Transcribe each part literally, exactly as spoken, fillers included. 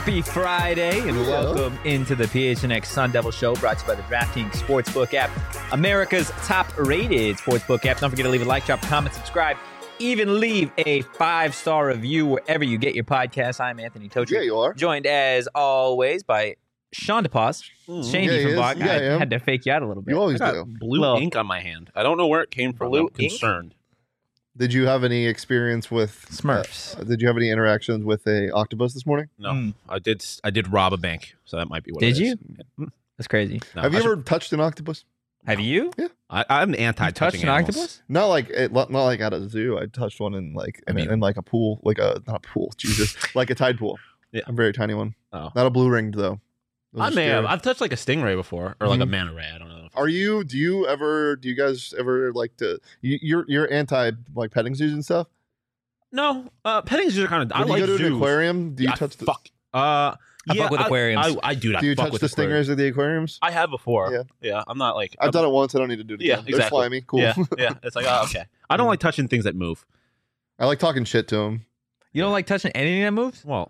Happy Friday and yeah. welcome into the P H N X Sun Devil Show, brought to you by the DraftKings Sportsbook app, America's top-rated sportsbook app. Don't forget to leave a like, drop a comment, subscribe, even leave a five-star review wherever you get your podcast. I'm Anthony Totri. Yeah, you are. Joined, as always, by Sean DePaz. Mm. Shane Yeah, he is. Diefenbach. Yeah, I I am. had to fake you out a little bit. You always I do. got blue Little- ink on my hand. I don't know where it came from. Blue I'm ink? concerned. Did you have any experience with Smurfs. uh, did you have any interactions with a octopus this morning? No, Mm. I did. I did rob a bank, so that might be what. Did it is. you? That's crazy. No, have you I ever should- touched an octopus? Have you? I, I'm You anti-touching touched an animals. octopus? Not like it, not like at a zoo. I touched one in like I in, mean- in like a pool, like a not a pool, Jesus, like a tide pool. Yeah. A very tiny one. Oh. Not a blue ringed though. Those I are may have. scary. I've touched like a stingray before, or like a Mhm. manta ray. I don't know. Are you? Do you ever? Do you guys ever like to? You, you're you're anti like petting zoos and stuff. No, uh, petting zoos are kind of. I When like you go to zoos. an aquarium, do you Yeah, touch the? fuck? Uh, I yeah, fuck with I, aquariums. I, I do. I Do you fuck touch with the aquariums. stingers at the aquariums? I have before. Yeah. Yeah, I'm not like. I've I'm- done it once. I don't need to do it again. Yeah, They're exactly. slimy. Cool. Yeah, yeah. It's like, oh, okay. I don't like touching things that move. I like talking shit to them. You don't like touching anything that moves? Well,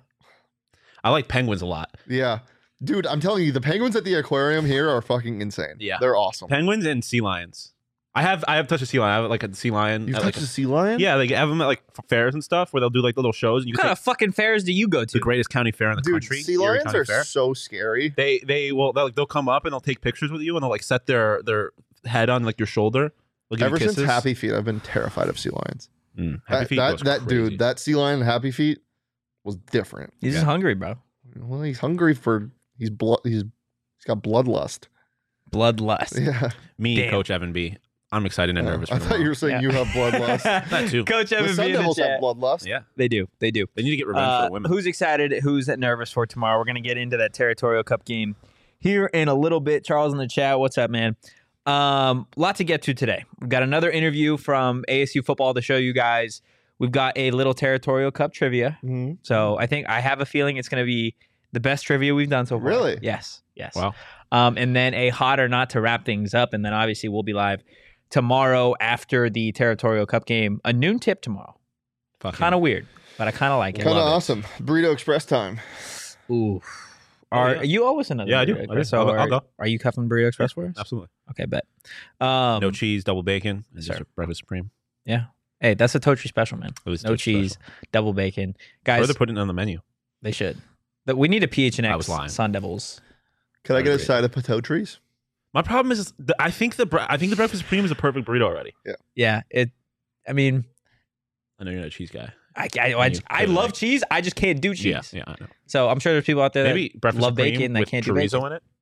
I like penguins a lot. Yeah. Dude, I'm telling you, the penguins at the aquarium here are fucking insane. Yeah. They're awesome. Penguins and sea lions. I have. I have touched a sea lion. I have like a sea lion. You've at, touched like, a sea lion? Yeah, they have them at like f- fairs and stuff where they'll do like little shows. And you What can kind take of fucking fairs do you go the to? greatest county fair in the Dude, country. sea Erie lions County are Fair. so scary. They they will they'll, like, they'll come up and they'll take pictures with you and they'll like set their their head on like your shoulder. They'll give Ever you since kisses. Happy Feet, I've been terrified of sea lions. Mm, Happy That, Feet that, goes that crazy. dude, that sea lion in Happy Feet was different. He's Yeah. just hungry, bro. Well, he's hungry for he's blood he's he's got bloodlust. Bloodlust. Yeah. Me, Damn. Coach Evan B. I'm excited and Uh, nervous. I for thought you were tomorrow. saying you have bloodlust. That too. Coach The Evan Sun B in the Devils have chat. bloodlust. Yeah, They do. They do. they need to get revenge Uh, for the women. who's excited? Who's nervous for tomorrow? We're going to get into that Territorial Cup game here in a little bit. Charles in the chat. What's up, man? Um, lot to get to today. We've got another interview from A S U football to show you guys. We've got a little Territorial Cup trivia. Mhm. So I think I have a feeling it's going to be the best trivia we've done so far. Really? Yes. Yes. Wow. Um, and then a hot or not to wrap things up. And then obviously we'll be live tomorrow after the Territorial Cup game. A noon tip tomorrow. Fucking- Kind of weird, but I kind of like it. Kind of love it. awesome. Burrito Express time. Ooh. Oh, Are yeah. you always another? Yeah, I do. Burrito I do. Express? So I'll go- are, I'll go. are you cuffing Burrito Express for us? Absolutely. Okay, bet. Um, No cheese, double bacon, and sir. just a breakfast supreme. Yeah. Hey, that's a Totri special, man. It was No totally cheese, special. double bacon, Or guys. they're putting it on the menu. They should. But we need a P H N I X was lying. Sun Devils. Can I get a Agreed. side of potato trees? My problem is, is the, I think the bre- I think the breakfast supreme is a perfect burrito already. Yeah. It. I mean, I know you're not a cheese guy. I I, I, You I could, love like- cheese. I just can't do cheese. Yeah, yeah, I know. So I'm sure there's people out there Maybe that breakfast love supreme bacon that with can't do chorizo bacon. in it.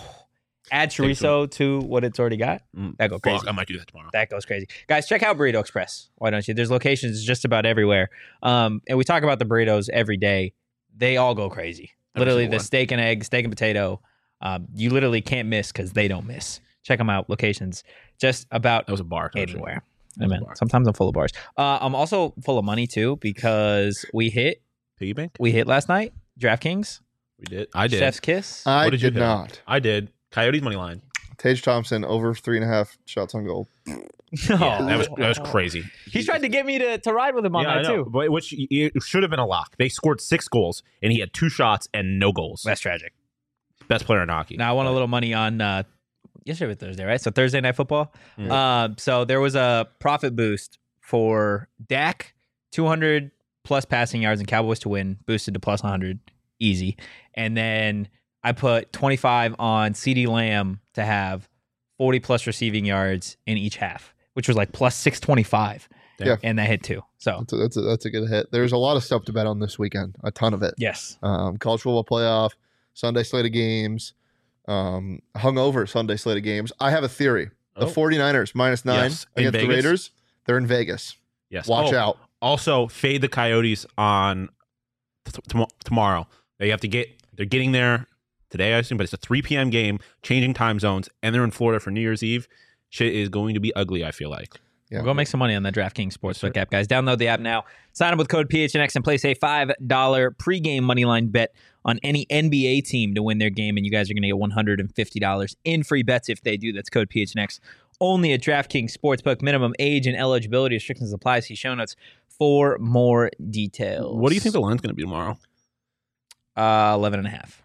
Add Take chorizo to what it's already got. Mm, That go fuck, crazy. I might do that tomorrow. That goes crazy. Guys, check out Burrito Express. Why don't you? There's locations just about everywhere. Um, and we talk about the burritos every day. They all go crazy. Every Literally, single the one. steak and egg, steak and potato. Um, you literally can't miss because they don't miss. Check them out. Locations just about That was a bar. Coach. anywhere. That was a Amen. bar. Sometimes I'm full of bars. Uh, I'm also full of money too because we hit Piggy bank. we hit last night. DraftKings, We did. I did. Chef's Kiss. I What did you did hit? not. I did. Coyotes money line. Tage Thompson over three and a half shots on goal. Yeah, that was that was crazy. He tried to get me to, to ride with him on yeah, I that know, too. but which it should have been a lock. They scored six goals and he had two shots and no goals. That's tragic. Best player in hockey. Now I won a little money on uh, yesterday was Thursday, right? So Thursday night football. Mm. Uh, so there was a profit boost for Dak, two hundred plus passing yards and Cowboys to win, boosted to plus one hundred, easy. And then I put twenty-five on CeeDee Lamb to have forty plus receiving yards in each half, which was like plus six twenty-five. Damn. Yeah. And that hit too. So That's a, that's, a, that's a good hit. There's a lot of stuff to bet on this weekend. A ton of it. yes. Um, college football playoff, Sunday slate of games, um, hungover Sunday slate of games. I have a theory. The Oh. 49ers minus nine Yes, in against the Vegas? Raiders. They're in Vegas. Yes. Watch Oh, out. Also, fade the Coyotes on t- t- tomorrow. They have to get. They're getting there today, I assume, but it's a three p.m. game, changing time zones, and they're in Florida for New Year's Eve. Shit is going to be ugly. I feel like. Yeah. We'll go make some money on the DraftKings Sportsbook sir. app, guys. Download the app now. Sign up with code P H N X and place a five dollar pregame moneyline bet on any N B A team to win their game, and you guys are going to get one hundred fifty dollars in free bets if they do. That's code P H N X. Only at DraftKings Sportsbook. Minimum age and eligibility restrictions apply. See show notes for more details. What do you think the line's going to be tomorrow? Uh, eleven and a half.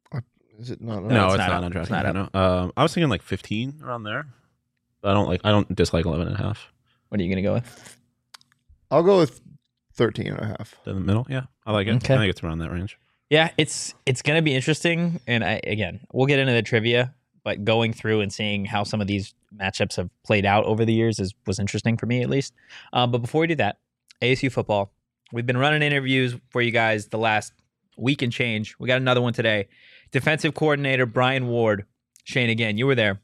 Is it not? No, it's it's, not not, up. on DraftKings. It's not up. No. Um, I was thinking like fifteen around there. But I don't like. I don't dislike eleven and a half. What are you going to go with? I'll go with thirteen and a half. In the middle, yeah, I like it. Okay. I think it's around that range. Yeah, it's it's going to be interesting. And I again, we'll get into the trivia, but going through and seeing how some of these matchups have played out over the years is was interesting for me at least. Um, but before we do that, A S U football. We've been running interviews for you guys the last week and change. We got another one today. Defensive coordinator Brian Ward. Shane, again, you were there.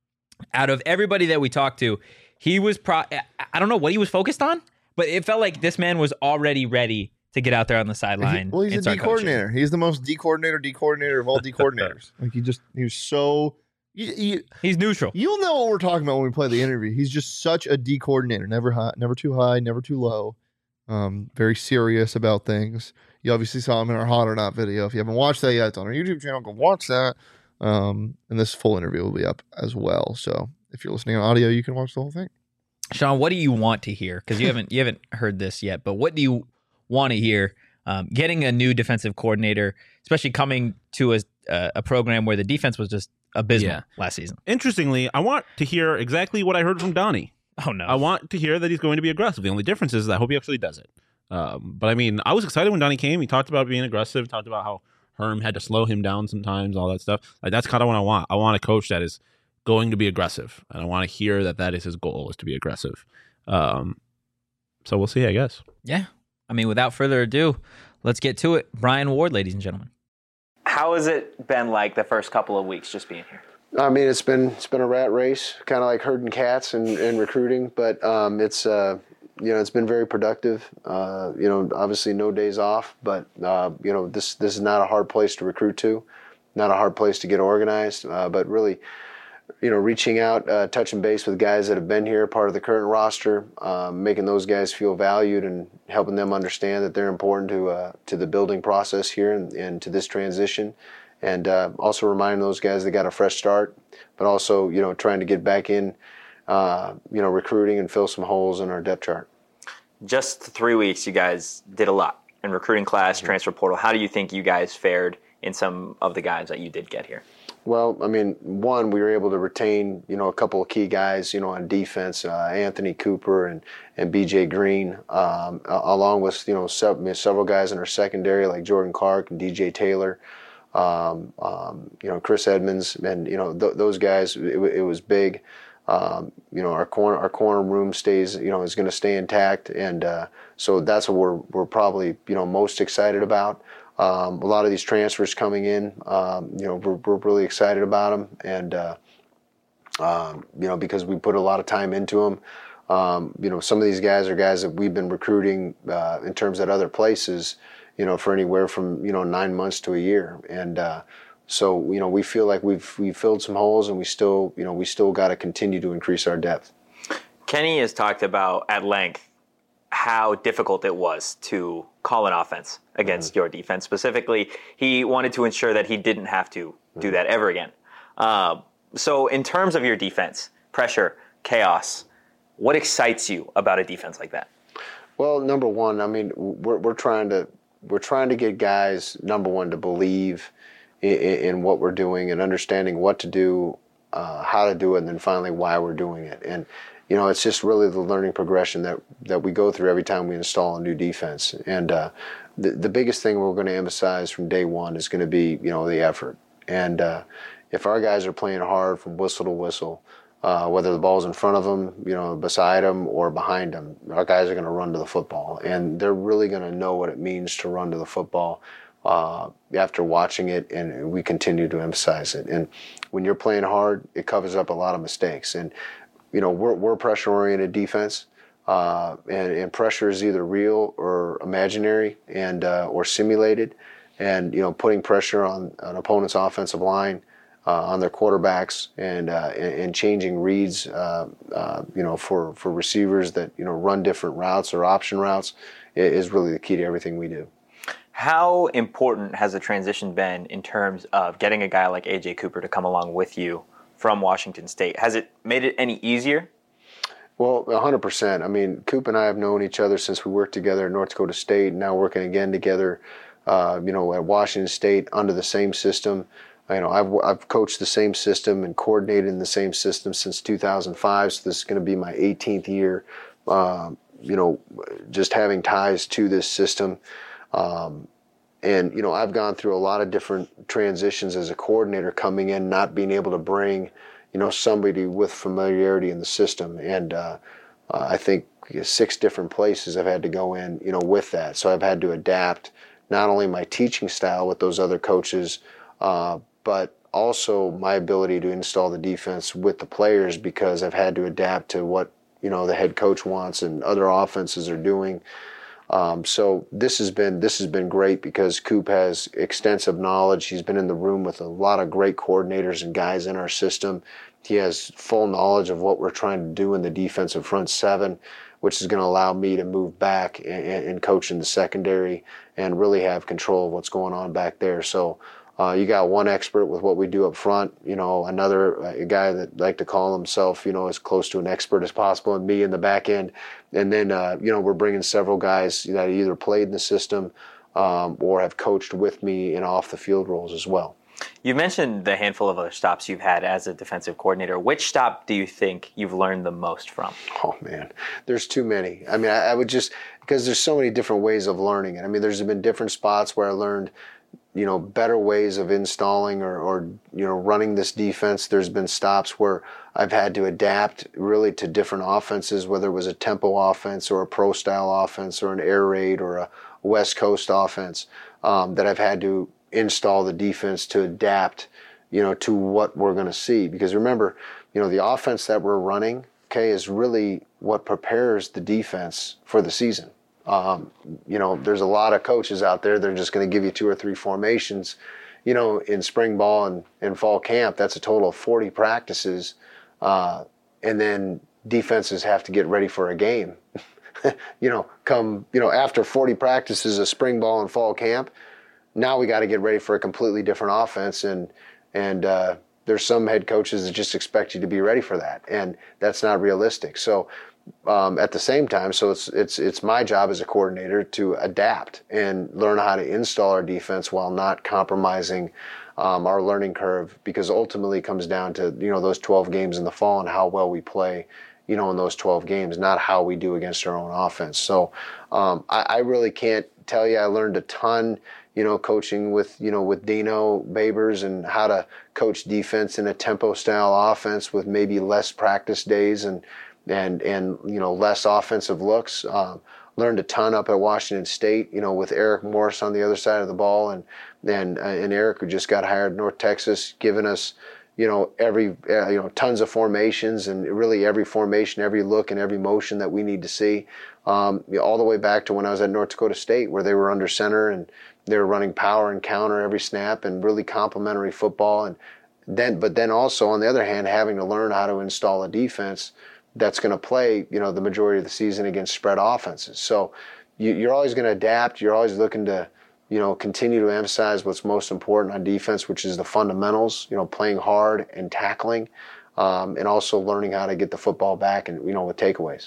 Out of everybody that we talked to, he was pro. I don't know what he was focused on, but it felt like this man was already ready to get out there on the sideline. He, well, he's and a start D coordinator. He's the most D coordinator, D coordinator of all D coordinators. Like he just, he was so. You, you, He's neutral. You'll know what we're talking about when we play the interview. He's just such a D coordinator. Never high, never too high, never too low. Um, very serious about things. You obviously saw him in our Hot or Not video. If you haven't watched that yet, it's on our YouTube channel. Go watch that. Um, and this full interview will be up as well. So if you're listening on audio, you can watch the whole thing. Sean, what do you want to hear? Because you haven't you haven't heard this yet, but what do you want to hear? Um, getting a new defensive coordinator, especially coming to a uh, a program where the defense was just abysmal Yeah. last season. Interestingly, I want to hear exactly what I heard from Donnie. Oh no! I want to hear that he's going to be aggressive. The only difference is I hope he actually does it. Um, but I mean, I was excited when Donnie came. He talked about being aggressive, talked about how Herm had to slow him down sometimes, all that stuff. Like that's kind of what I want. I want a coach that is going to be aggressive, and I want to hear that that is his goal, is to be aggressive. Um, so we'll see, I guess. Yeah, I mean, without further ado, let's get to it. Brian Ward, ladies and gentlemen. How has it been like the first couple of weeks just being here? I mean, it's been it's been a rat race, kind of like herding cats and, and recruiting, but um, it's uh, you know it's been very productive. Uh, you know, obviously no days off, but uh, you know this this is not a hard place to recruit to, not a hard place to get organized, uh, but really, you know, reaching out, uh, touching base with guys that have been here, part of the current roster, um, making those guys feel valued and helping them understand that they're important to uh, to the building process here and, and to this transition. And uh, also reminding those guys they got a fresh start, but also, you know, trying to get back in, uh, you know, recruiting and fill some holes in our depth chart. Just three weeks, you guys did a lot in recruiting class, mm-hmm. transfer portal. How do you think you guys fared in some of the guys that you did get here? Well, I mean, one, we were able to retain, you know, a couple of key guys, you know, on defense, uh, Anthony Cooper and, and B J Green, um, along with, you know, several, several guys in our secondary like Jordan Clark and D J Taylor. Um, um, you know, Chris Edmonds, and you know th- those guys. It, it was big. Um, you know, our corner our corner room stays. You know, is going to stay intact, and uh, so that's what we're we're probably you know most excited about. Um, a lot of these transfers coming in. Um, you know, we're we're really excited about them, and uh, um, you know because we put a lot of time into them. Um, you know, some of these guys are guys that we've been recruiting uh, in terms at other places. You know, for anywhere from, you know, nine months to a year. And uh, so, you know, we feel like we've we filled some holes and we still, you know, we still got to continue to increase our depth. Kenny has talked about at length how difficult it was to call an offense against mm-hmm. your defense. Specifically, he wanted to ensure that he didn't have to mm-hmm. do that ever again. Uh, so in terms of your defense, pressure, chaos, what excites you about a defense like that? Well, number one, I mean, we're we're trying to We're trying to get guys, number one, to believe in, in what we're doing and understanding what to do, uh, how to do it, and then finally why we're doing it. And, you know, it's just really the learning progression that, that we go through every time we install a new defense. And uh, the, the biggest thing we're going to emphasize from day one is going to be, you know, the effort. And uh, if our guys are playing hard from whistle to whistle, Uh, whether the ball's in front of them, you know, beside them or behind them, our guys are going to run to the football, and they're really going to know what it means to run to the football uh, after watching it, and we continue to emphasize it. And when you're playing hard, it covers up a lot of mistakes. And you know, we're we're pressure-oriented defense, uh, and, and pressure is either real or imaginary, and uh, or simulated. And you know, putting pressure on an opponent's offensive line. Uh, on their quarterbacks and, uh, and and changing reads, uh, uh, you know, for, for receivers that you know run different routes or option routes is really the key to everything we do. How important has the transition been in terms of getting a guy like A J Cooper to come along with you from Washington State? Has it made it any easier? Well, one hundred percent. I mean, Coop and I have known each other since we worked together at North Dakota State, and now working again together uh, you know, at Washington State under the same system. You know, I've I've coached the same system and coordinated in the same system since two thousand five. So this is going to be my eighteenth year. Uh, you know, just having ties to this system. Um, and, you know, I've gone through a lot of different transitions as a coordinator coming in, not being able to bring, you know, somebody with familiarity in the system. And uh, uh, I think six different places I've had to go in, you know, with that. So I've had to adapt not only my teaching style with those other coaches, uh, but also my ability to install the defense with the players, because I've had to adapt to what, you know, the head coach wants and other offenses are doing. Um, so this has been this has been great because Coop has extensive knowledge. He's been in the room with a lot of great coordinators and guys in our system. He has full knowledge of what we're trying to do in the defensive front seven, which is going to allow me to move back and, and coach in the secondary and really have control of what's going on back there. So uh, you got one expert with what we do up front, you know, another a guy that like to call himself, you know, as close to an expert as possible, and me in the back end. And then, uh, you know, we're bringing several guys that either played in the system um, or have coached with me in off the field roles as well. You mentioned the handful of other stops you've had as a defensive coordinator. Which stop do you think you've learned the most from? Oh, man, there's too many. I mean, I, I would just, because there's so many different ways of learning it. I mean, there's been different spots where I learned, you know, better ways of installing or, or, you know, running this defense. There's been stops where I've had to adapt really to different offenses, whether it was a tempo offense or a pro style offense or an air raid or a West Coast offense, um, that I've had to install the defense to adapt, you know, to what we're going to see. Because remember, you know, the offense that we're running, okay, is really what prepares the defense for the season. Um, you know, there's a lot of coaches out there that are just going to give you two or three formations, you know, in spring ball and, and fall camp. That's a total of forty practices. Uh, and then defenses have to get ready for a game. you know, come, you know, after forty practices of spring ball and fall camp, now we got to get ready for a completely different offense. And, and, uh, there's some head coaches that just expect you to be ready for that. And that's not realistic. So, Um, at the same time, so it's it's it's my job as a coordinator to adapt and learn how to install our defense while not compromising um, our learning curve, because ultimately it comes down to, you know, those twelve games in the fall and how well we play, you know, in those twelve games, not how we do against our own offense. So um, I, I really can't tell you. I learned a ton, you know, coaching with, you know, with Dino Babers and how to coach defense in a tempo style offense with maybe less practice days and and, and you know, less offensive looks. Um, learned a ton up at Washington State, you know, with Eric Morris on the other side of the ball. And and, uh, and Eric, who just got hired at North Texas, giving us, you know, every, uh, you know, tons of formations and really every formation, every look and every motion that we need to see. Um, you know, all the way back to when I was at North Dakota State, where they were under center and they were running power and counter every snap and really complementary football. And then, but then also on the other hand, having to learn how to install a defense that's going to play, you know, the majority of the season against spread offenses. So you, you're always going to adapt. You're always looking to, you know, continue to emphasize what's most important on defense, which is the fundamentals, you know, playing hard and tackling, um, and also learning how to get the football back and, you know, with takeaways.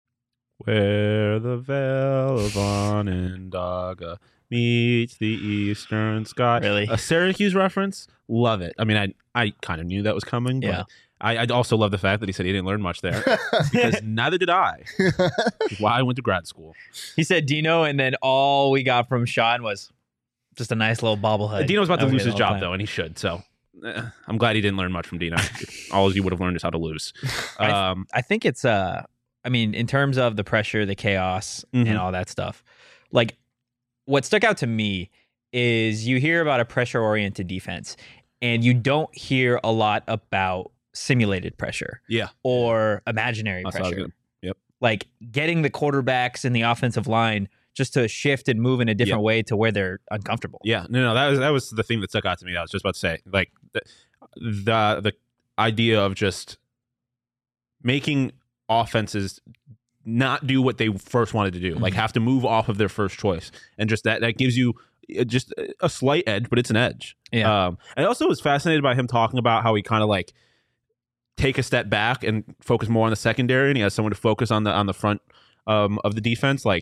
Where the Vale of Onondaga meets the eastern sky. Really? A Syracuse reference? Love it. I mean, I I kind of knew that was coming, but Yeah. I, I also love the fact that he said he didn't learn much there, because neither did I. Why I went to grad school. He said Dino, and then all we got from Sean was just a nice little bobblehead. Dino's about to That lose was his the job, whole though, and he should. So eh, I'm glad he didn't learn much from Dino. All you would have learned is how to lose. I- Um, I think it's uh I mean, in terms of the pressure, the chaos, Mhm. and all that stuff, like what stuck out to me is you hear about a pressure oriented defense and you don't hear a lot about simulated pressure yeah. or imaginary That's what I was pressure. gonna- yep. Like getting the quarterbacks in the offensive line just to shift and move in a different Yep. way to where they're uncomfortable. Yeah, no, no, that was that was the thing that stuck out to me. I was just about to say, like the the, the idea of just making offenses not do what they first wanted to do, like Mhm. have to move off of their first choice, and just that that gives you uh, just a slight edge, but it's an edge. Yeah. Um, I also was fascinated by him talking about how he kind of like take a step back and focus more on the secondary, and he has someone to focus on the on the front um, of the defense. Like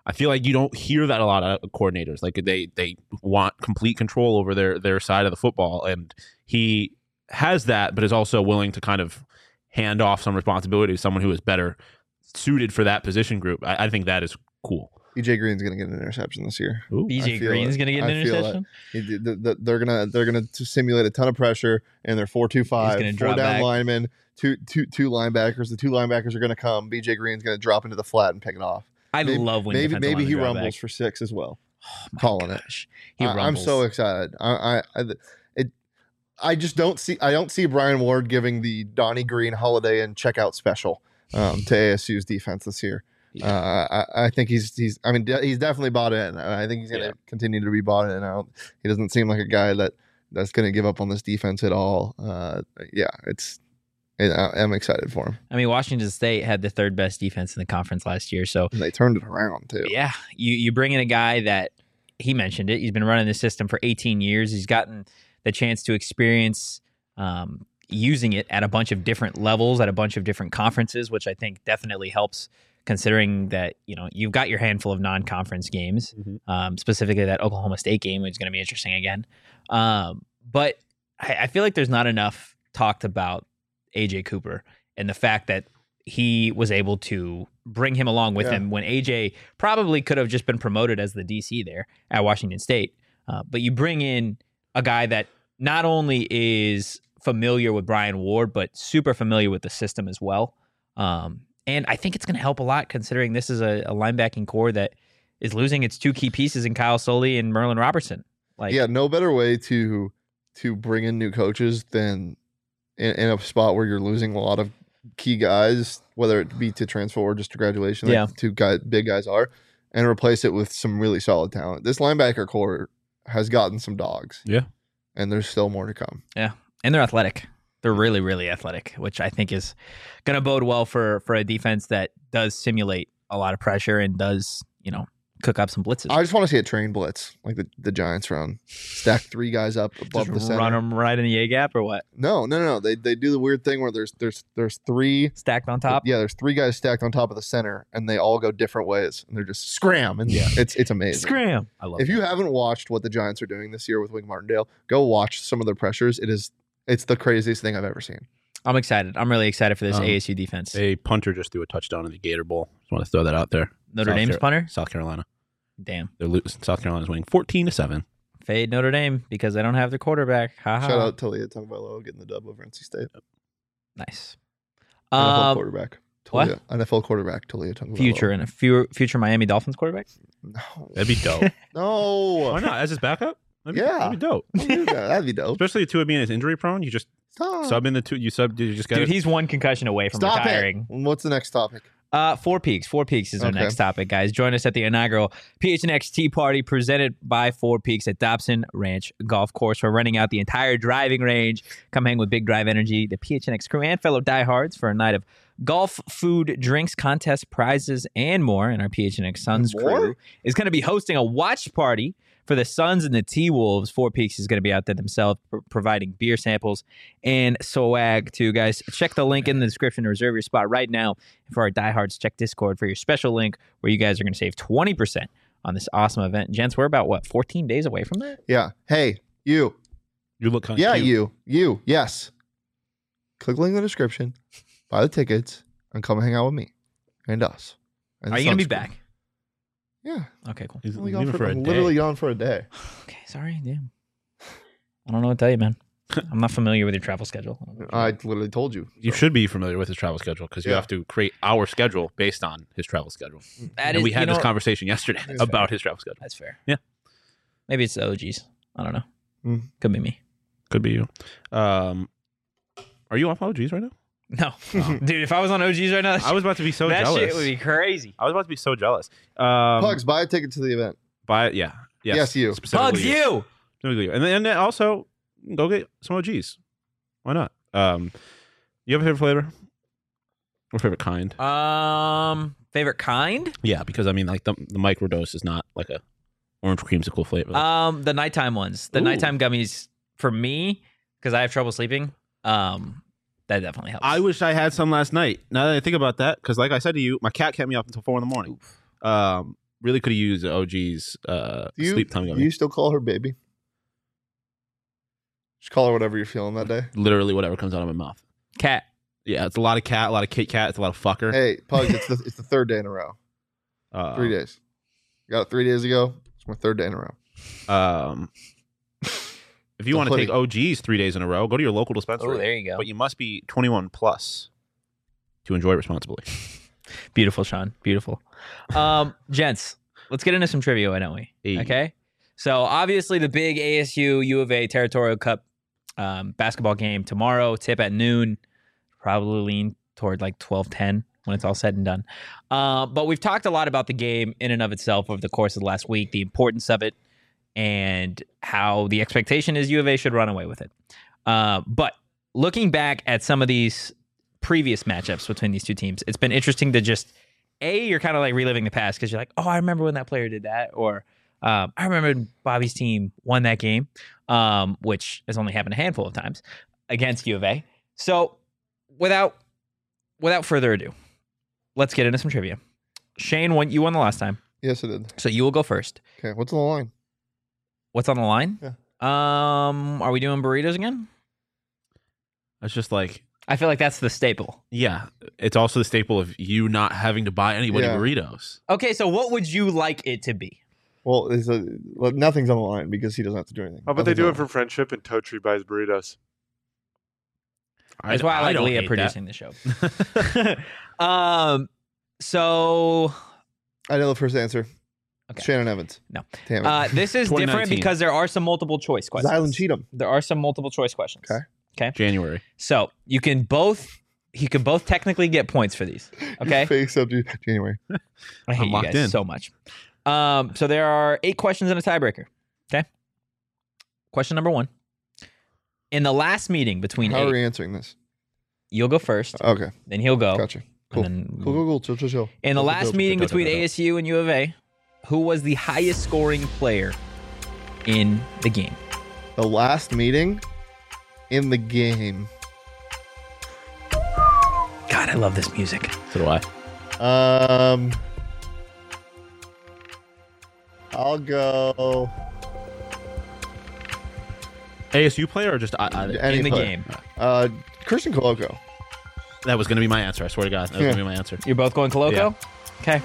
I feel like you don't hear that a lot of coordinators. Like they they want complete control over their their side of the football, and he has that, but is also willing to kind of hand off some responsibility to someone who is better suited for that position group. I, I think that is cool. B J Green's going to get an interception this year. Ooh. B J I feel Green's it. going to get an I feel interception. it. He- the- the- They're gonna they're gonna simulate a ton of pressure, and they're four two five, gonna four drop down back. linemen, two two two linebackers. The two linebackers are going to come. B J Green's going to drop into the flat and pick it off. I Maybe- love when maybe defensive maybe he linemen drop rumbles back. for six as well. Oh my calling it. gosh. He I, I'm rumbles. so excited. I, I, I, it, I just don't see. I don't see Brian Ward giving the Donnie Green Holiday and checkout special um, to A S U's defense this year. Uh, I, I think he's he's. I mean, de- he's definitely bought in. I think he's going to Yeah. continue to be bought in. I don't, he doesn't seem like a guy that that's going to give up on this defense at all. Uh, yeah, it's. It, I, I'm excited for him. I mean, Washington State had the third best defense in the conference last year. So, And they turned it around too. yeah, you, you bring in a guy that he mentioned it. He's been running the system for eighteen years. He's gotten the chance to experience um, using it at a bunch of different levels, at a bunch of different conferences, which I think definitely helps considering that, you know, you've got your handful of non-conference games, Mhm. um, specifically that Oklahoma State game, which is going to be interesting again. Um, but I, I feel like there's not enough talked about A J Cooper and the fact that he was able to bring him along with Yeah. him when A J probably could have just been promoted as the D C there at Washington State. Uh, but you bring in a guy that not only is familiar with Brian Ward, but super familiar with the system as well. Um, and I think it's going to help a lot considering this is a, a linebacking core that is losing its two key pieces in Kyle Soley and Merlin Robertson. Like, yeah, no better way to to bring in new coaches than in, in a spot where you're losing a lot of key guys, whether it be to transfer or just to graduation, like Yeah. the two guys, big guys are, and replace it with some really solid talent. This linebacker core has gotten some dogs. Yeah. And there's still more to come. and they're athletic. They're really, really athletic, which I think is going to bode well for for a defense that does simulate a lot of pressure and does, you know, cook up some blitzes. I just want to see a train blitz like the, the Giants run. Stack three guys up above Just the center. run them right in the A gap or what? No, no, no, no. They they do the weird thing where there's there's there's three Stacked on top? Yeah, there's three guys stacked on top of the center, and they all go different ways, and they're just scram, and Yeah. it's it's amazing. Scram. I love If you haven't watched what the Giants are doing this year with Wink Martindale, go watch some of their pressures. It is it's the craziest thing I've ever seen. I'm excited. I'm really excited for this Um, A S U defense. A punter just threw a touchdown in the Gator Bowl. Just want to throw that out there. Notre South Dame's Car- punter? South Carolina. Damn. They're losing. South Carolina's winning fourteen to seven. Fade Notre Dame because they don't have their quarterback. Ha ha. Shout out to Talia Tagovailoa getting the dub over N C State. Nice. N F L Um, quarterback. what? Talia, N F L quarterback. Talia Tagovailoa. future and a few future Miami Dolphins quarterback. No. That'd be dope. No. Why not? As his backup? That'd be, Yeah. that'd be dope. Don't do that. That'd be dope. Especially Tua being as injury prone. You just Stop. sub in the two. You sub. You just got. Dude, he's one concussion away from Stop retiring. it. What's the next topic? Uh, Four Peaks. Four Peaks is our Okay. next topic, guys. Join us at the inaugural P H N X Tea Party presented by Four Peaks at Dobson Ranch Golf Course. We're renting out the entire driving range. Come hang with Big Drive Energy, the P H N X crew, and fellow diehards for a night of golf, food, drinks, contests, prizes, and more. And our P H N X Suns More? crew is going to be hosting a watch party for the Suns and the T-Wolves. Four Peaks is going to be out there themselves pr- providing beer samples and swag too, guys. Check the link in the description to reserve your spot right now. And for our diehards, check Discord for your special link where you guys are going to save twenty percent on this awesome event. Gents, we're about, what, fourteen days away from that? Yeah. Hey, you. You look kind of Yeah, cute. you. You. Yes. Click the link in the description, buy the tickets, and come hang out with me and us. And Are the you going to Suns be crew. back? Yeah. Okay, cool. He's I'm only leaving gone for, for, a I'm day. literally gone for a day. Okay, sorry. Damn. I don't know what to tell you, man. I'm not familiar with your travel schedule. I literally told you. You should be familiar with his travel schedule because you Yeah. have to create our schedule based on his travel schedule. That and is- we you had this know- conversation yesterday That's about his travel schedule. That's fair. Yeah. Maybe it's the O Gs. I don't know. Mm. Could be me. Could be you. Um, are you off O Gs right now? No. Dude, if I was on O Gs right now, that, I was about to be so that jealous. shit would be crazy. I was about to be so jealous. Um, Pugs, buy a ticket to the event. Buy yeah. Yes, Yes, you. Specifically Bugs you. Specifically you. And then, and then also go get some O Gs. Why not? Um, you have a favorite flavor or favorite kind? Um, favorite kind? Yeah, because I mean, like the the microdose is not like a orange creamsicle flavor. Um, the nighttime ones. The Ooh. nighttime gummies for me, because I have trouble sleeping. Um, that definitely helps. I wish I had some last night. Now that I think about that, because like I said to you, my cat kept me up until four in the morning. Um, really could have used O G's uh, Do you, sleep time do gummy. you still call her baby? Just call her whatever you're feeling that day. Literally whatever comes out of my mouth. Cat. Yeah, it's a lot of cat, a lot of Kit Kat, it's a lot of fucker. Hey, Pugs, it's the it's the third day in a row. Uh, Three days. Got it three days ago. It's my third day in a row. Um, if you The want to take hoodie. O G's three days in a row, go to your local dispensary. Oh, there you go. But you must be twenty-one plus to enjoy responsibly. Beautiful, Sean. Beautiful. Um, gents, let's get into some trivia, why don't we? Hey. Okay. So obviously the big A S U U of A Territorial Cup um, basketball game tomorrow, tip at noon. Probably lean toward like twelve ten when it's all said and done. Uh, but we've talked a lot about the game in and of itself over the course of the last week, the importance of it, and how the expectation is U of A should run away with it. Uh, but looking back at some of these previous matchups between these two teams, it's been interesting to just, A, you're kind of like reliving the past because you're like, oh, I remember when that player did that, or um, I remember when Bobby's team won that game, um, which has only happened a handful of times against U of A. So without without further ado, let's get into some trivia. Shane, won, you won the last time, Yes, it did. so you will go first. Okay, what's on the line? What's on the line? Yeah. Um, are we doing burritos again? It's just like, I feel like that's the staple. yeah, it's also the staple of you not having to buy anybody Yeah. burritos. Okay, so what would you like it to be? Well, it's a, well, nothing's on the line because he doesn't have to do anything. How about they Nothing's do on it the for line. friendship and Toe Tree buys burritos? That's why I like don't Leah hate producing the show. um, so I know the first answer. Okay. Shannon Evans. No. Damn it. uh, this is twenty different nineteen. because there are some multiple choice questions. Zylan Cheatham. There are some multiple choice questions. Okay. January. So you can both, you can both technically get points for these. Okay. Face up to January. I hate I'm you locked guys in. so much. Um, so there are eight questions and a tiebreaker. Okay. Question number one. In the last meeting between How are eight, we answering this? you'll go first, Okay, then he'll go. gotcha. Cool. And then Cool, cool, cool. Chill, chill, chill. in the Chill, last chill, chill, meeting chill, between chill, chill. A S U and U of A, who was the highest scoring player in the game? The last meeting in the game. God, I love this music. So do I. Um, I'll go A S U player or just I, I, any in the player. game. Uh, Christian Coloco. that was going to be my answer. I swear to God, that was Yeah. going to be my answer. You're both going Coloco? Yeah. Okay.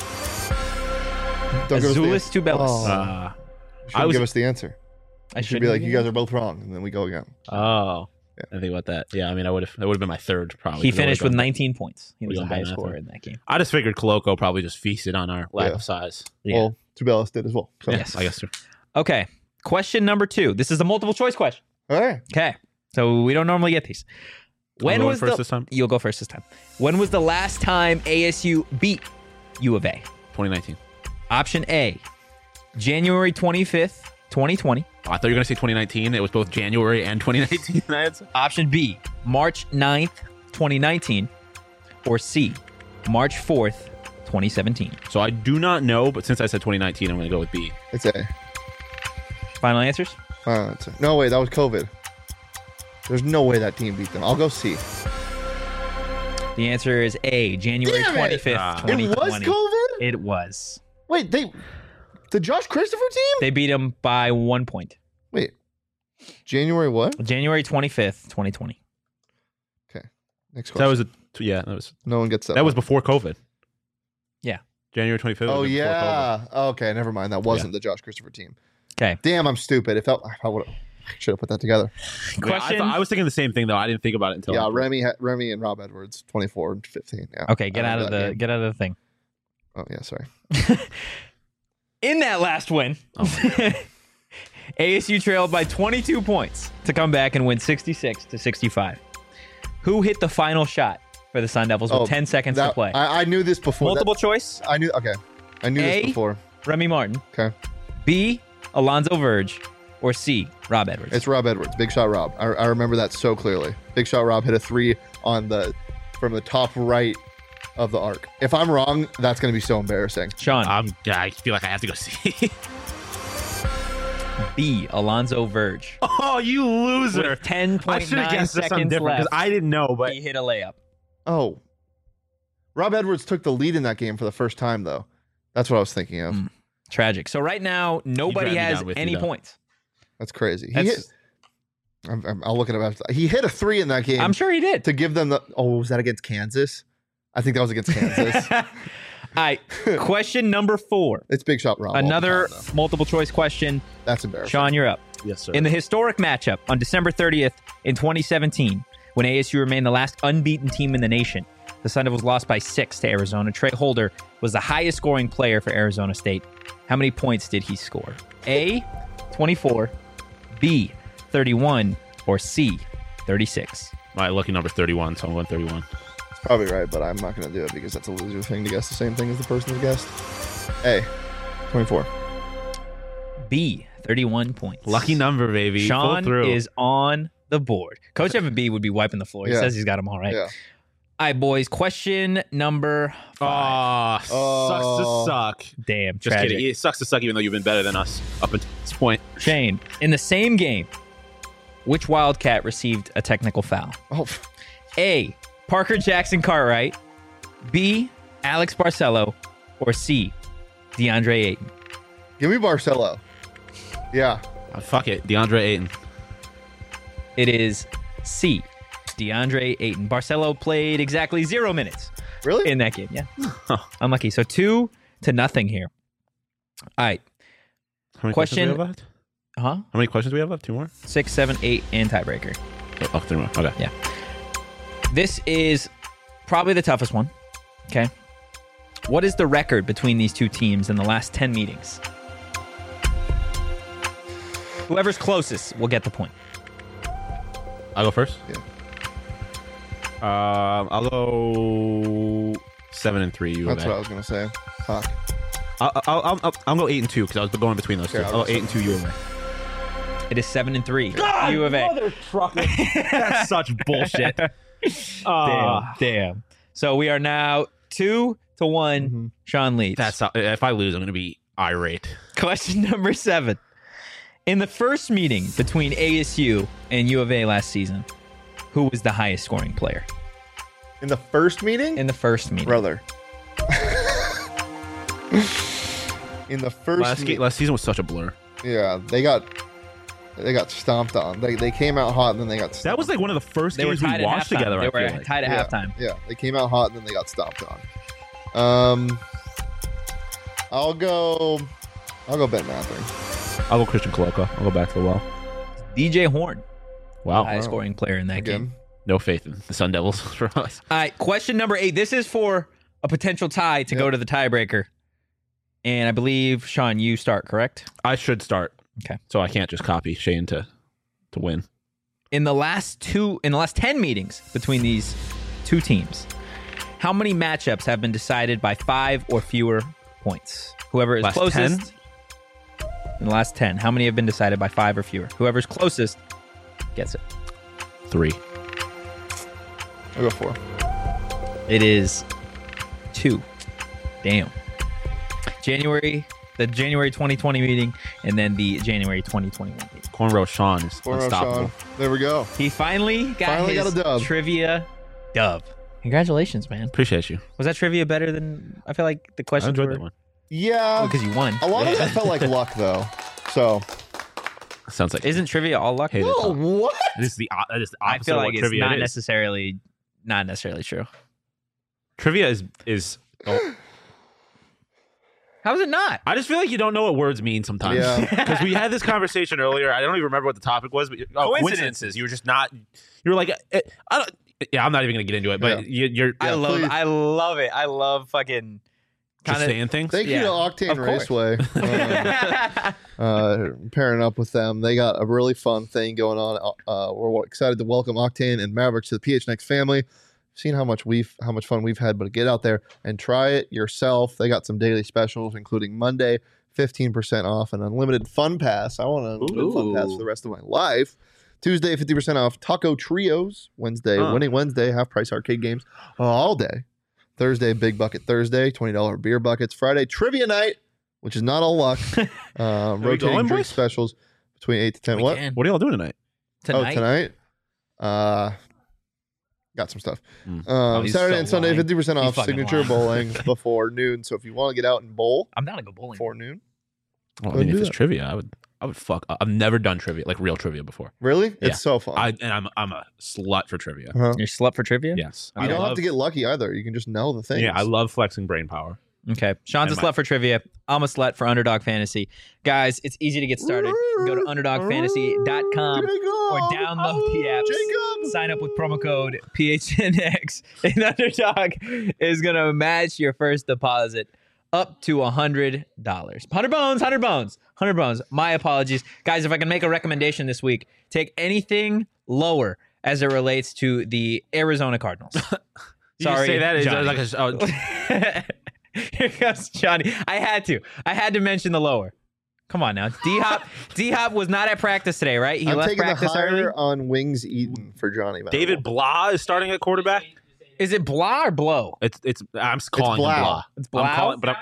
Don't give us the Azulis answer. Tubelis. Oh, Uh, you shouldn't I was- give us the answer. I You should shouldn't be like, have you guys are both wrong, and then we go again. oh, Yeah. I think about that. Yeah, I mean, I would have. That would have been my third probably. He 'cause I finished with would've gone- nineteen points. He was we the gone by highest math, scorer huh? in that game. I just figured Coloco probably just feasted on our lack Yeah. of size. Yeah. Well, Tubelis did as well. So. Yes. I guess. So. Okay. Question number two. This is a multiple choice question. All right. Okay. So we don't normally get these. I'm When going was first the this time? You'll go first this time. When was the last time A S U beat U of A? twenty nineteen. Option A, January twenty-fifth, twenty twenty. Oh, I thought you were going to say twenty nineteen. It was both January and twenty nineteen. Option B, March ninth, twenty nineteen. Or C, March fourth, twenty seventeen. So I do not know, but since I said twenty nineteen, I'm going to go with B. It's A. Final answers? Uh, it's a. No, wait, that was COVID. There's no way that team beat them. I'll go C. The answer is A, January Damn it! twenty-fifth, Ah. It twenty was twenty. COVID? It was. Wait, they. The Josh Christopher team? They beat them by one point. Wait. January what? January twenty-fifth, twenty twenty. Next So question. that was a yeah. That was no one gets that. that was one. before COVID. Yeah. January twenty-fifth. Oh was before yeah. Okay, never mind. That wasn't the Josh Christopher team. Okay. Damn, I'm stupid. It felt. I would. Should have put that together. COVID. Yeah, I, Question. thought- I was thinking the same thing though. I didn't think about it until yeah, after. Remy, ha- Remy, and Rob Edwards, twenty-four and fifteen. Yeah. Okay, get I out of remember the that game. get out of the thing. Oh yeah, sorry. In that last win, A S U trailed by twenty-two points to come back and win sixty-six to sixty-five. Who hit the final shot for the Sun Devils with Oh, ten seconds That- to play? I, I knew this before. Multiple That- choice: I knew. Okay, I knew A? this before. Remy Martin. Okay, B. Alonzo Verge. Or C. Rob Edwards. it's Rob Edwards. Big shot, Rob. I, I remember that so clearly. Big shot, Rob hit a three on the from the top right of the arc. If I'm wrong, that's going to be so embarrassing. Sean. Um, yeah, I feel like I have to go see. B. Alonzo Verge. Oh, you loser! With ten I point should have nine guessed something seconds different left, because I didn't know. But he hit a layup. Oh, Rob Edwards took the lead in that game for the first time, though. That's what I was thinking of. Mm. Tragic. So right now, nobody drag me has down with you, any though. points. That's crazy. He That's- hit, I'm, I'm, I'll look at it. He hit a three in that game. I'm sure he did. to give them the. Oh, was that against Kansas? I think that was against Kansas. All right. Question number four. It's Big Shot Rob. all the Another time, though. multiple choice question. That's embarrassing. Sean, you're up. Yes, sir. In the historic matchup on December thirtieth in twenty seventeen, when A S U remained the last unbeaten team in the nation, the Sun Devils lost by six to Arizona. Trey Holder was the highest scoring player for Arizona State. How many points did he score? A, twenty-four, B, thirty-one, or C, thirty-six? My lucky number thirty-one, so I'm going thirty-one. Probably right, but I'm not going to do it because that's a loser thing to guess the same thing as the person who guessed. A, twenty-four. B, thirty-one points. Lucky number, baby. Pull Sean through. is on the board. Coach Evan B would be wiping the floor. He Yeah. says he's got them all right. Yeah. All right, boys. Question number five. Oh, Oh. sucks to suck. Damn, Just tragic. kidding. It sucks to suck, even though you've been better than us up until this point. Shane, in the same game, which Wildcat received a technical foul? Oh, f- A, Parker Jackson Cartwright, B, Alex Barcelo, or C, DeAndre Ayton? give me Barcelo. Yeah. Oh, fuck it. DeAndre Ayton. It is C, DeAndre Ayton. Barcelo played exactly zero minutes Really? in that game. Yeah. Huh. Unlucky. So two to nothing here. All right. How many Question- questions do we have left? Huh? How many questions do we have left? Two more? Six, seven, eight, and tiebreaker. Oh, oh, three more. Okay. Yeah. This is probably the toughest one. Okay. What is the record between these two teams in the last ten meetings? Whoever's closest will get the point. I'll go first? Yeah. Um, I'll go seven and three. You That's go what I was going to say. Fuck. I'll, I'll, I'll, I'll, I'll go eight and two because I was going between those Okay, two. I'll I'll go go eight and two. You and It is seven and three. U of A. That's such bullshit. Damn. Damn. So we are now two to one. Mhm. Sean leads. That's how, if I lose, I'm going to be irate. Question number seven. In the first meeting between A S U and U of A last season, who was the highest scoring player? In the first meeting? In the first meeting. Brother. In the first Last, me- ga- last season was such a blur. Yeah, they got they got stomped on. They they came out hot and then they got stomped. That was like one of the first They were games we tied at watched halftime. together. They I were feel like. tied at yeah, halftime. Yeah, they came out hot and then they got stomped on. Um I'll go I'll go Ben Mather. I'll go Christian Coloco. I'll go back to the well. D J Horn, Wow. highest scoring player in that game. Again. No faith in the Sun Devils for us. All right, question number eight. This is for a potential tie to Yep. go to the tiebreaker. And I believe, Sean, you start, correct? I should start. Okay. So I can't just copy Shane to to win. In the last two, in the last ten meetings between these two teams, how many matchups have been decided by five or fewer points? Whoever is Last closest. In the last ten, how many have been decided by five or fewer? Whoever's closest gets it. Three. I'll go four. It is two. Damn. January, the January twenty twenty meeting, and then the January twenty twenty-one meeting. Cornrow Sean is Four unstoppable. Sean. There we go. He finally got Finally his got a dub. trivia dub. Congratulations, man. Appreciate you. Was that trivia better than I feel like the I questions enjoyed were? that one. Yeah. Because you won. A lot of that felt like luck though. So Sounds like Isn't trivia all luck? Hey, that's oh, all. what? It is the o- it is the I opposite feel of like what it's trivia not is. necessarily not necessarily true. Trivia is is. Oh, How is it not? I just feel like you don't know what words mean sometimes. Yeah. Because we had this conversation earlier. I don't even remember what the topic was. But oh, Coincidences. coincidences. You were just not. You were like, eh, I don't. Yeah, I'm not even gonna get into it. But you, you're I just love please. I love it. I love fucking kinda, saying things. Thank Yeah, you to Octane of course. Raceway. Um, uh, pairing up with them. They got a really fun thing going on. Uh, we're excited to welcome Octane and Mavericks to the P H N X family. Seen how much we've how much fun we've had, but get out there and try it yourself. They got some daily specials, including Monday, fifteen percent off an unlimited fun pass. I want an unlimited fun pass for the rest of my life. Tuesday, fifty percent off Taco Trios. Wednesday, Huh. Winning Wednesday, half price arcade games all day. Thursday, Big Bucket Thursday, twenty dollars beer buckets. Friday, Trivia Night, which is not all luck. Um, we rotating going, drink boys? specials between eight to ten. We what? can. What are y'all doing tonight? Tonight. Oh, tonight? Uh, got some stuff. Mm. Um, Oh, he's Saturday so and Sunday, lying. fifty percent He's off fucking signature lying. bowling before noon. So if you want to get out and bowl I'm down to go bowling. before noon, Well, I Go mean, do if it's that. trivia, I would. I would fuck. I've never done trivia, like real trivia, before. really, it's Yeah. so fun. I and I'm I'm a slut for trivia. uh-huh. You're slut for trivia? Yes, You I don't love, have to get lucky either. You can just know the things. Yeah, I love flexing brain power. Okay. Sean's a And my- slut for trivia. I'm a slut for Underdog Fantasy. Guys, it's easy to get started. Go to underdog fantasy dot com or download the app. Jacob. Sign up with promo code P H N X, and Underdog is going to match your first deposit up to one hundred dollars. one hundred bones, one hundred bones, one hundred bones. My apologies. Guys, if I can make a recommendation this week, take anything lower as it relates to the Arizona Cardinals. You just say that is Johnny. like a, oh, Here comes Johnny. I had to. I had to mention the lower. Come on now. D Hop D Hop was not at practice today, right? He I'm left taking the practice higher early. on wings eaten for Johnny. Manziel. David Blah is starting at quarterback. Is it Blah or Blow? It's it's. I'm calling him Blah. Blah. It's I'm Blah? calling, but I'm,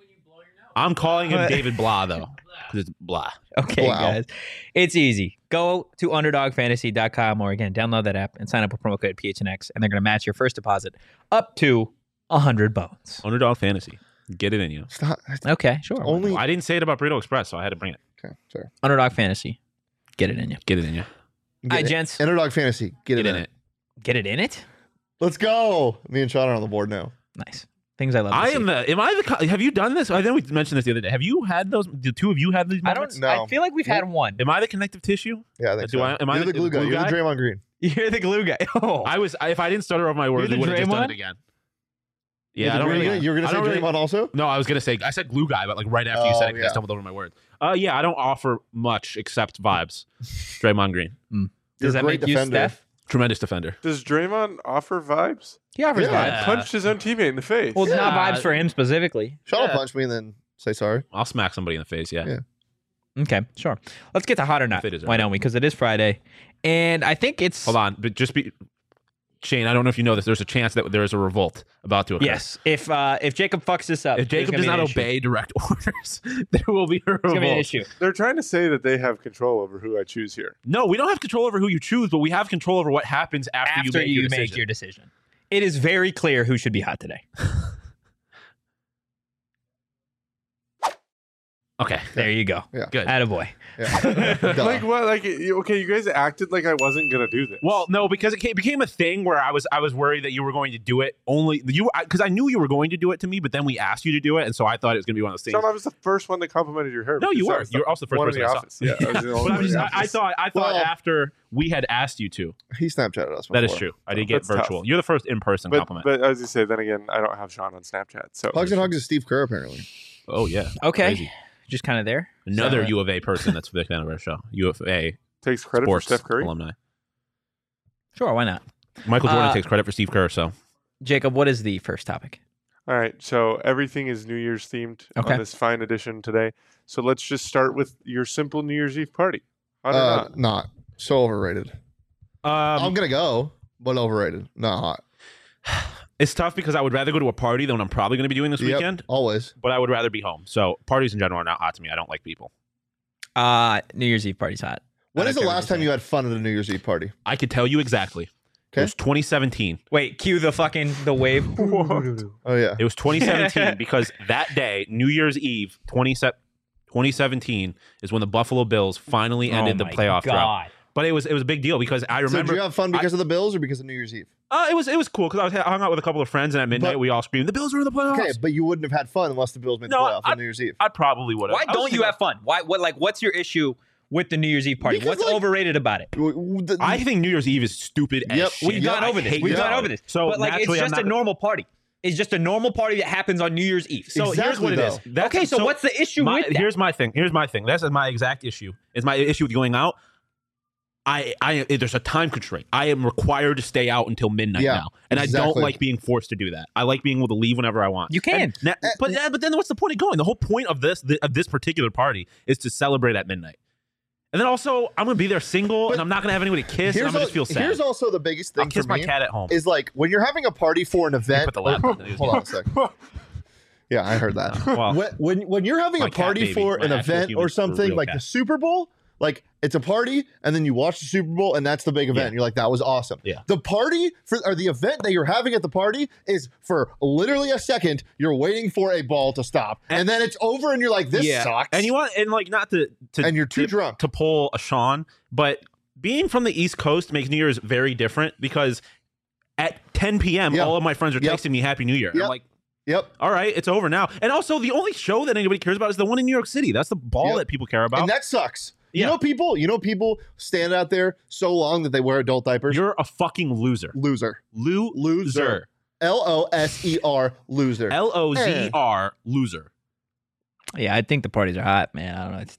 I'm calling him David Blah though, because it's Blah. Okay, Wow. guys. It's easy. Go to underdog fantasy dot com or again, download that app and sign up with promo code P H N X, and they're going to match your first deposit up to one hundred bones. Underdog fantasy. Get it in you. Stop. Okay, sure. Only. Well, I didn't say it about Burrito Express, so I had to bring it. Okay, sorry. Underdog Fantasy. Get it in you. Get it in you. Get Hi, it. gents. Underdog fantasy. Get, Get it in in. it. Get it in it? Let's go. Me and Sean are on the board now. Nice. Things I love to I see. am the. Am I the? co- Have you done this? I think we mentioned this the other day. Have you had those? The two of you had these I moments? don't No. I feel like we've had one. Am I the connective tissue? Yeah, I think Do so. I- am I You're the- the glue the guy. glue You're the guy? Draymond Green. You're the glue guy. Oh. I was. I, if I didn't stutter over my words, the we would have just done Draymond? it again. You're Yeah, the I don't Green really. guy? You're gonna I say don't Draymond really- also? No, I was gonna say. I said glue guy, but like right after you Oh, said it, 'cause yeah. I stumbled over my words. Uh, yeah, I don't offer much except vibes. Draymond Green, You're Does a that great make you defender. Steph? tremendous defender. Does Draymond offer vibes? He offers Yeah. vibes. Punched his own teammate in the face. Well, it's not Yeah. vibes for him specifically. Sean will Yeah. punch me and then say sorry. I'll smack somebody in the face. Yeah. Yeah. Okay, sure. Let's get to hot or not. If it is Why early. don't we? Because it is Friday, and I think it's Hold on, but just be. Shane, I don't know if you know this. There's a chance that there is a revolt about to occur. yes. If uh, if Jacob fucks this up, If there's Jacob gonna does be an not issue. obey direct orders, there will be a It's gonna be an revolt. issue. They're trying to say that they have control over who I choose here. No, we don't have control over who you choose, but we have control over what happens after, After you make you your make decision. your decision, it is very clear who should be hot today. Okay, There you go. Yeah. good. Attaboy. Yeah. Duh. Like what? Like you- okay, you guys acted like I wasn't gonna do this. Well, no, because it ca- became a thing where I was I was worried that you were going to do it only you because I knew you were going to do it to me, but then we asked you to do it, and so I thought it was going to be one of those things. Sean, I was the first one that complimented your hair. No, you because I were. was You were the also the first one in person the I saw. office. Yeah, I was the only But one I'm in just, the I, I office. thought I thought Well- after we had asked you to. He Snapchatted us. That is before. true. I did get That's tough. virtual. You're the first in person But, compliment. but as you say, then again, I don't have Sean on Snapchat. So Hugs and Hugs is Steve Kerr, apparently. oh yeah. Okay. Crazy. Just kind of there. Another So- U of A person that's a big fan of our show. U of A takes credit sports for Steph Curry. alumni. Sure, why not? Michael Jordan Uh, takes credit for Steve Kerr. So Jacob, what is the first topic? All right, so everything is New Year's themed Okay. on this fine edition today. So let's just start with your simple New Year's Eve party. Hot or Uh, not? not. So overrated. um, I'm going to go, but overrated. Not hot. it's tough because I would rather go to a party than what I'm probably going to be doing this Yep, weekend. always. But I would rather be home. So parties in general are not hot to me. I don't like people. Uh New Year's Eve party's hot. When I is don't the care what last time say. you had fun at a New Year's Eve party? I could tell you exactly. It Okay. was twenty seventeen. Wait, cue the fucking the wave. Oh, yeah. It was twenty seventeen because that day, New Year's Eve, twenty seventeen, is when the Buffalo Bills finally ended Oh the my playoff drought. God. But it was it was a big deal because I So remember did you have fun because of the Bills or because of New Year's Eve? uh, it was it was cool because I was I hung out with a couple of friends and at midnight But- we all screamed the Bills are in the playoffs. Okay, but you wouldn't have had fun unless the Bills made the No, playoff I- on New Year's Eve. I probably would have. Why don't you have fun? Why what like what's your issue with the New Year's Eve party? Because, What's like- overrated about it? W- w- the- I think New Year's Eve is stupid as Yep, shit. We've gone I over this. hate We've New gone Year's over Eve. this. So but like it's naturally, I'm just not- a normal party. It's just a normal party that happens on New Year's Eve. So here's Exactly, what it is. though. That's- okay, so, what's the issue my, with that? Here's my thing. Here's my thing. That's my exact issue. Is my issue with going out. I, I, there's a time constraint. I am required to stay out until midnight Yeah, now, and I exactly. don't like being forced to do that. I like being able to leave whenever I want. You can. And na- Uh, but yeah, but then what's the point of going? The whole point of this of this particular party is to celebrate at midnight. And then also, I'm gonna be there single, But and I'm not gonna have anybody to kiss, and I'm gonna al- just feel sad. here's also the biggest thing I'll kiss for my me cat at home. is like when you're having a party for an event. put the laptop in the hold on a second. Yeah, I heard that. Well, when, when when you're having my a cat party baby, for my an actual event human, or something real like cat. the Super Bowl, Like it's a party, and then you watch the Super Bowl, and that's the big event. Yeah. And you're like, that was awesome. Yeah. The party for or the event that you're having at the party is for literally a second. You're waiting for a ball to stop, and, and then it's over, and you're like, this Yeah. sucks. And you want and like not to, to and you're too to, drunk. to pull a Sean, but being from the East Coast makes New Year's very different because at ten p.m. Yeah. all of my friends are Yep. texting me Happy New Year. Yep. I'm like, Yep. all right, it's over now. And also, the only show that anybody cares about is the one in New York City. That's the ball Yep. that people care about. And that sucks. You Yeah. know people. You know people stand out there so long that they wear adult diapers. You're a fucking loser. loser. Lo- Loser. L O S E R. Loser. L O Z E R, loser. Yeah, I think the parties are hot, man. I don't know what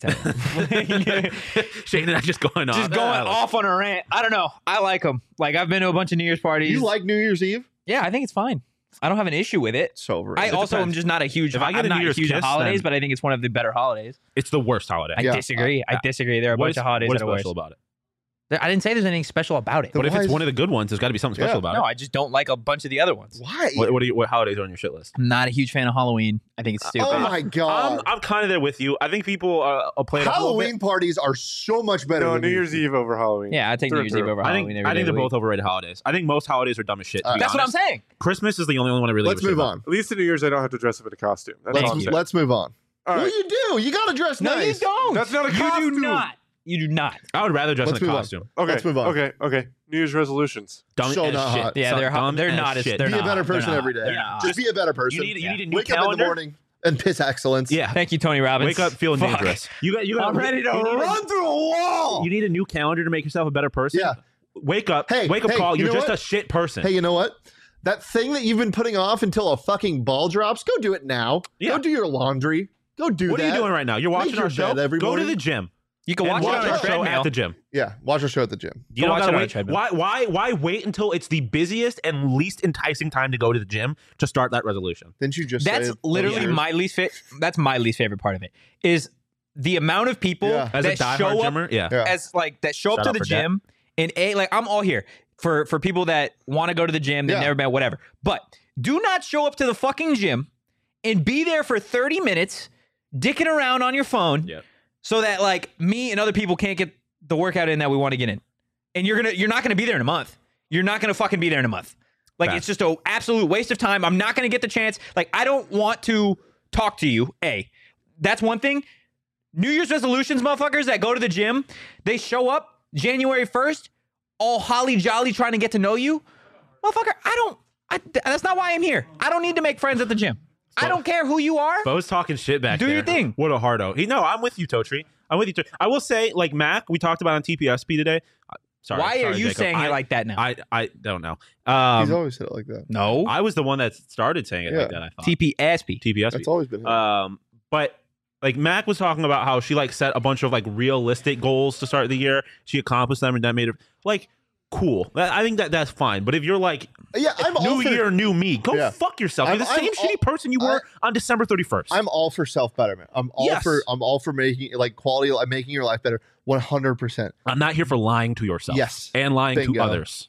to tell you. Shane and I just going off. Just going off on a rant. I don't know. I like them. Like I've been to a bunch of New Year's parties. You like New Year's Eve? Yeah, I think it's fine. I don't have an issue with it. It's over. I It also depends. am just not a huge. If I get I'm a New not Year's huge kiss, holidays, then- but I think it's one of the better holidays. It's the worst holiday. I Yeah. disagree. I disagree. There are a What bunch is, of holidays what is that are worse. special about it? There- I didn't say there's anything special about it. The- What if why it's is- one of the good ones? There's got to be something special Yeah. about No, it. I just don't like a bunch of the other ones. Why? What, what, do you, what holidays are on your shit list? I'm not a huge fan of Halloween. I think it's stupid. Oh my god! I'm, I'm kind of there with you. I think people uh, uh, play it up a little bit. Halloween parties are so much better. No, than New Year's Eve over Halloween. Yeah, I take Through New and Year's Eve through. over I Halloween. think every I day think of they're the both week. overrated holidays. I think most holidays are dumb as shit. To Uh, be That's what I'm honest. saying. Christmas is the only one I really. Let's give a shit move about. on. At least in New Year's, I don't have to dress up in a costume. That's all I'm Let's saying. let's move on. All Well, right. you do. You got to dress No, nice. you don't. That's not a You costume. do not. You do not. I would rather dress Let's in a move on. costume. Okay. Let's move on. Okay. Okay. New Year's resolutions. Dumb So as not shit. hot. Yeah, So they're hot. dumb They're as not as shit. they're Be a not. better They're person not. every day. They're not. Just be a better person. You need you need a new Wake up in calendar. the morning and piss excellence. Yeah. Thank you, Tony Robbins. Wake up feeling Fuck. dangerous. You got you got. I'm ready to you need a- Run through a wall. You need a new calendar to make yourself a better person. Yeah. Wake up. Hey, wake up hey, call. you You're know just what? a shit person. Hey, you know what? That thing that you've been putting off until a fucking ball drops, go do it now. Yeah. Go do your laundry. Go do what that. are you doing right now? You're Make watching your our show. bed every Go to morning. the gym. You can And watch, watch it on our a show treadmill. at the gym. Yeah, watch our show at the gym. You Go don't watch gotta it on a wait. treadmill. Why? Why? Why wait until it's the busiest and least enticing time to go to the gym to start that resolution? Didn't you just That's say literally yours? my least fit. That's my least favorite part of it is the amount of people Yeah. As a that diehard show up gymmer, yeah. Yeah. as like that show Shout up to out the for that. gym and a like I'm all here for for people that want to go to the gym, they've Yeah. never been, whatever. But do not show up to the fucking gym and be there for thirty minutes dicking around on your phone Yeah. so that like me and other people can't get the workout in that we want to get in. And you're gonna you're not gonna be there in a month. You're not gonna fucking be there in a month. Like Fact. it's just an absolute waste of time. I'm not gonna get the chance. Like I don't want to talk to you. A, that's one thing. New Year's resolutions, motherfuckers that go to the gym, they show up January first, all holly jolly trying to get to know you. Motherfucker, I don't. I, that's not why I'm here. I don't need to make friends at the gym. I don't care who you are. Bo's talking shit back Do there. your thing. What a hardo. He, no, I'm with you, Totri. I'm with you. Totri. I will say, like Mac, we talked about on T P S P today. Uh, Sorry. why are sorry, you Jacob. saying I, it like that now? I I don't know. He's Um, always said it like that. no. I was the one that started saying it Yeah. like that. I thought T P S P. T P S P. That's always been him. Um, but like Mac was talking about how she like set a bunch of like realistic goals to start the year. She accomplished them, and that made her like cool. That, I think that that's fine. But if you're like yeah, I'm all new for, year, new me, go Yeah. fuck yourself. I'm- You're the I'm same all- shitty person you were on December thirty-first. I'm all for self betterment. I'm all Yes. for I'm all for making like quality of making your life better. one hundred percent. I'm not here for lying to yourself. Yes. and lying Bingo. to others.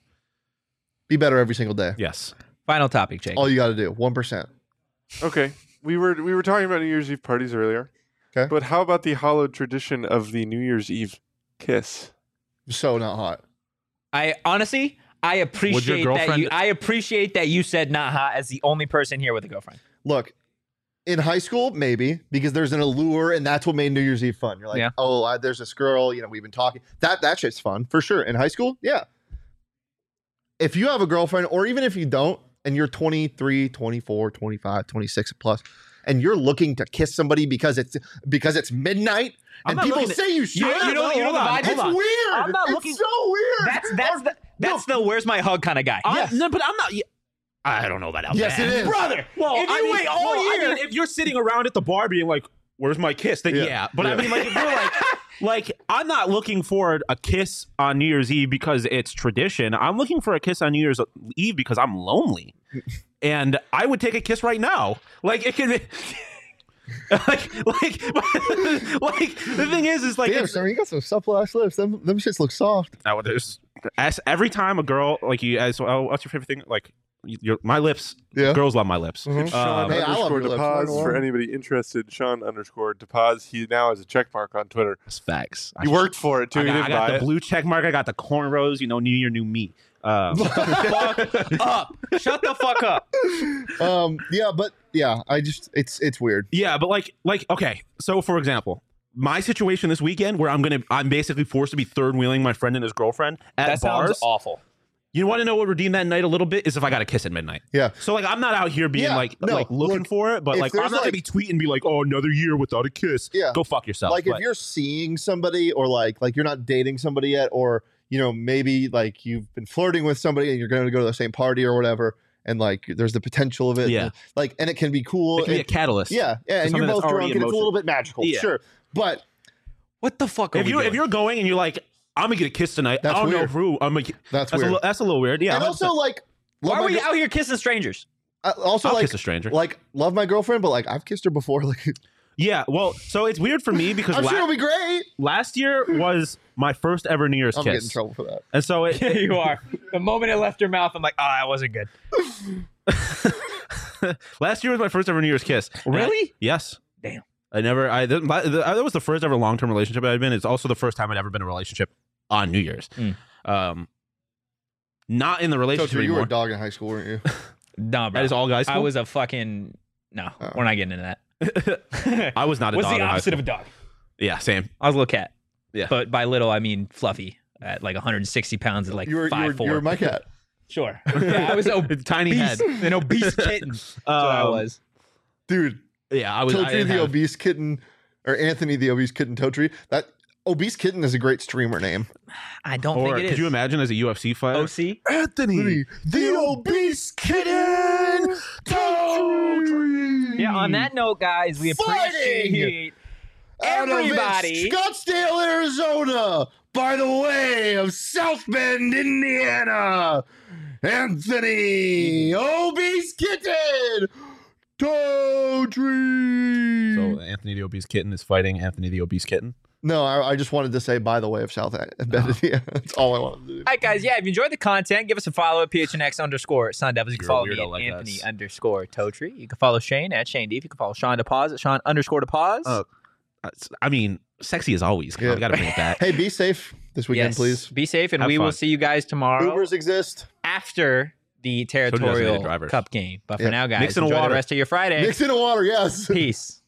Be better every single day. Yes. Final topic, Jake. All you got to do. one percent. Okay. We were we were talking about New Year's Eve parties earlier. Okay. But how about the hallowed tradition of the New Year's Eve kiss? So not hot. I honestly, I appreciate that girlfriend- you. I appreciate that you said not hot as the only person here with a girlfriend. Look, in high school, maybe because there's an allure, and that's what made New Year's Eve fun. You're like, Yeah. oh, I, there's this girl. You know, we've been talking. That that shit's fun for sure. In high school, yeah. If you have a girlfriend, or even if you don't, and you're twenty-three, twenty-four, twenty-five, twenty-six plus, and you're looking to kiss somebody because it's because it's midnight, I'm and not people looking to- say you should. You know- you know- you know the vibe- It's hold on. weird. I'm not it's looking- so weird. That's that's the that's the where's my hug kind of guy. I- Yes. no, but I'm not. I don't know about that. Yes, it is. brother. Well, If I you mean, wait all well, I year- mean, if you're sitting around at the bar being like, "Where's my kiss?" Then yeah. Yeah. But I Yeah. mean, like, if you're like, like, I'm not looking for a kiss on New Year's Eve because it's tradition. I'm looking for a kiss on New Year's Eve because I'm lonely, and I would take a kiss right now. Like it can be. like, like, like the thing is, is like Damn, it's- Sir, you got some supple ass lips. Them, them shits look soft. Oh, there's as every time a girl like you as well, what's your favorite thing? Like your my lips. Yeah. Girls love my lips. Mhm. Sean Um, Hey, I love underscore your lips. Mine DePaz for are. anybody interested. Sean underscore DePaz. He now has a check mark on Twitter. It's facts. He I- worked for it too. I he got, didn't I got buy the it. blue check mark. I got the cornrows. You know, new year, new me. Um, Fuck up. Shut the fuck up. Um, yeah, but yeah, I just it's it's weird. yeah, but like, like, okay. So, for example, my situation this weekend, where I'm gonna, I'm basically forced to be third wheeling my friend and his girlfriend at That bars. sounds awful. You want to know what redeem that night a little bit is if I got a kiss at midnight. Yeah. So like, I'm not out here being Yeah, like, no, like looking look, for it, but if like, I'm there's, not gonna like- be tweeting and be like, oh, another year without a kiss. Yeah. Go fuck yourself. Like But- if you're seeing somebody or like like you're not dating somebody yet, or you know maybe like you've been flirting with somebody and you're going to go to the same party or whatever, and like there's the potential of it. Yeah. and, like and it can be cool. it can be a and- catalyst. yeah, yeah, and something you're that's both already drunk in and it's a motion. little bit magical. Yeah. Sure, but What the fuck are If we you doing? if you're going and you're like, I'm gonna get a kiss tonight. That's I don't know weird. who. I'm like, that's, that's a weird. little, that's a little weird. Yeah. and I'm also upset. like Why love are my we gir- out here kissing strangers? uh, also I'll like kiss a stranger. like love my girlfriend, but like I've kissed her before. Like yeah. Well, so it's weird for me because I'm la- sure it'll be great. last year was my first ever New Year's I'm getting in kiss, trouble for that. and so it, Yeah, you are. The moment it left your mouth, I'm like, oh, that wasn't good. last year was my first ever New Year's kiss. And I- Really? yes. Damn. I never. I that, that was the first ever long term relationship I'd been. It's also the first time I'd ever been in a relationship on New Year's. Mm. Um, not in the So relationship you were anymore. a dog in high school, weren't you? Nah, bro. That is all guys. I school? was a fucking. No, Oh. we're not getting into that. I was not a What's dog the in high opposite school. of a dog? Yeah, same. I was a little cat. Yeah. But by little, I mean fluffy at like one hundred sixty pounds at like you were you five were, four. you were my cat. Sure. Yeah, I was obese, Tiny head. an obese kitten. That's what I Um, was. Dude, Yeah, I was. I Totri didn't the have- obese kitten, or Anthony the obese kitten Totri. That obese kitten is a great streamer name. I don't Or think it could is. you imagine as a U F C fighter? O C? Anthony, the obese kitten Totri. Yeah, on that note, guys, we appreciate Fighting Out of everybody. Scottsdale, Arizona, by the way of South Bend, Indiana, Anthony Obese Kitten Totri. So Anthony the obese kitten is fighting Anthony the obese kitten. No, I, I just wanted to say by the way of South Bend. Yeah, that's all I wanted to do. All right, guys. Yeah, if you enjoyed the content, give us a follow at P H N X underscore Sun Devils. You can You're a follow me weirdo at like Anthony us. underscore Totri. You can follow Shane at Shane Deep. You can follow Sean DePaz at Sean underscore DePaz. Oh, I mean, sexy as always. Come on, Yeah. we gotta bring it back. Hey, be safe this weekend, Yes. please. Be safe, and Have we will fun. see you guys tomorrow Ubers exist. after the designated territorial drivers. Cup game. But for Yeah. now, guys, Mix in enjoy water. the rest of your Friday. Mix in the water, yes. Peace.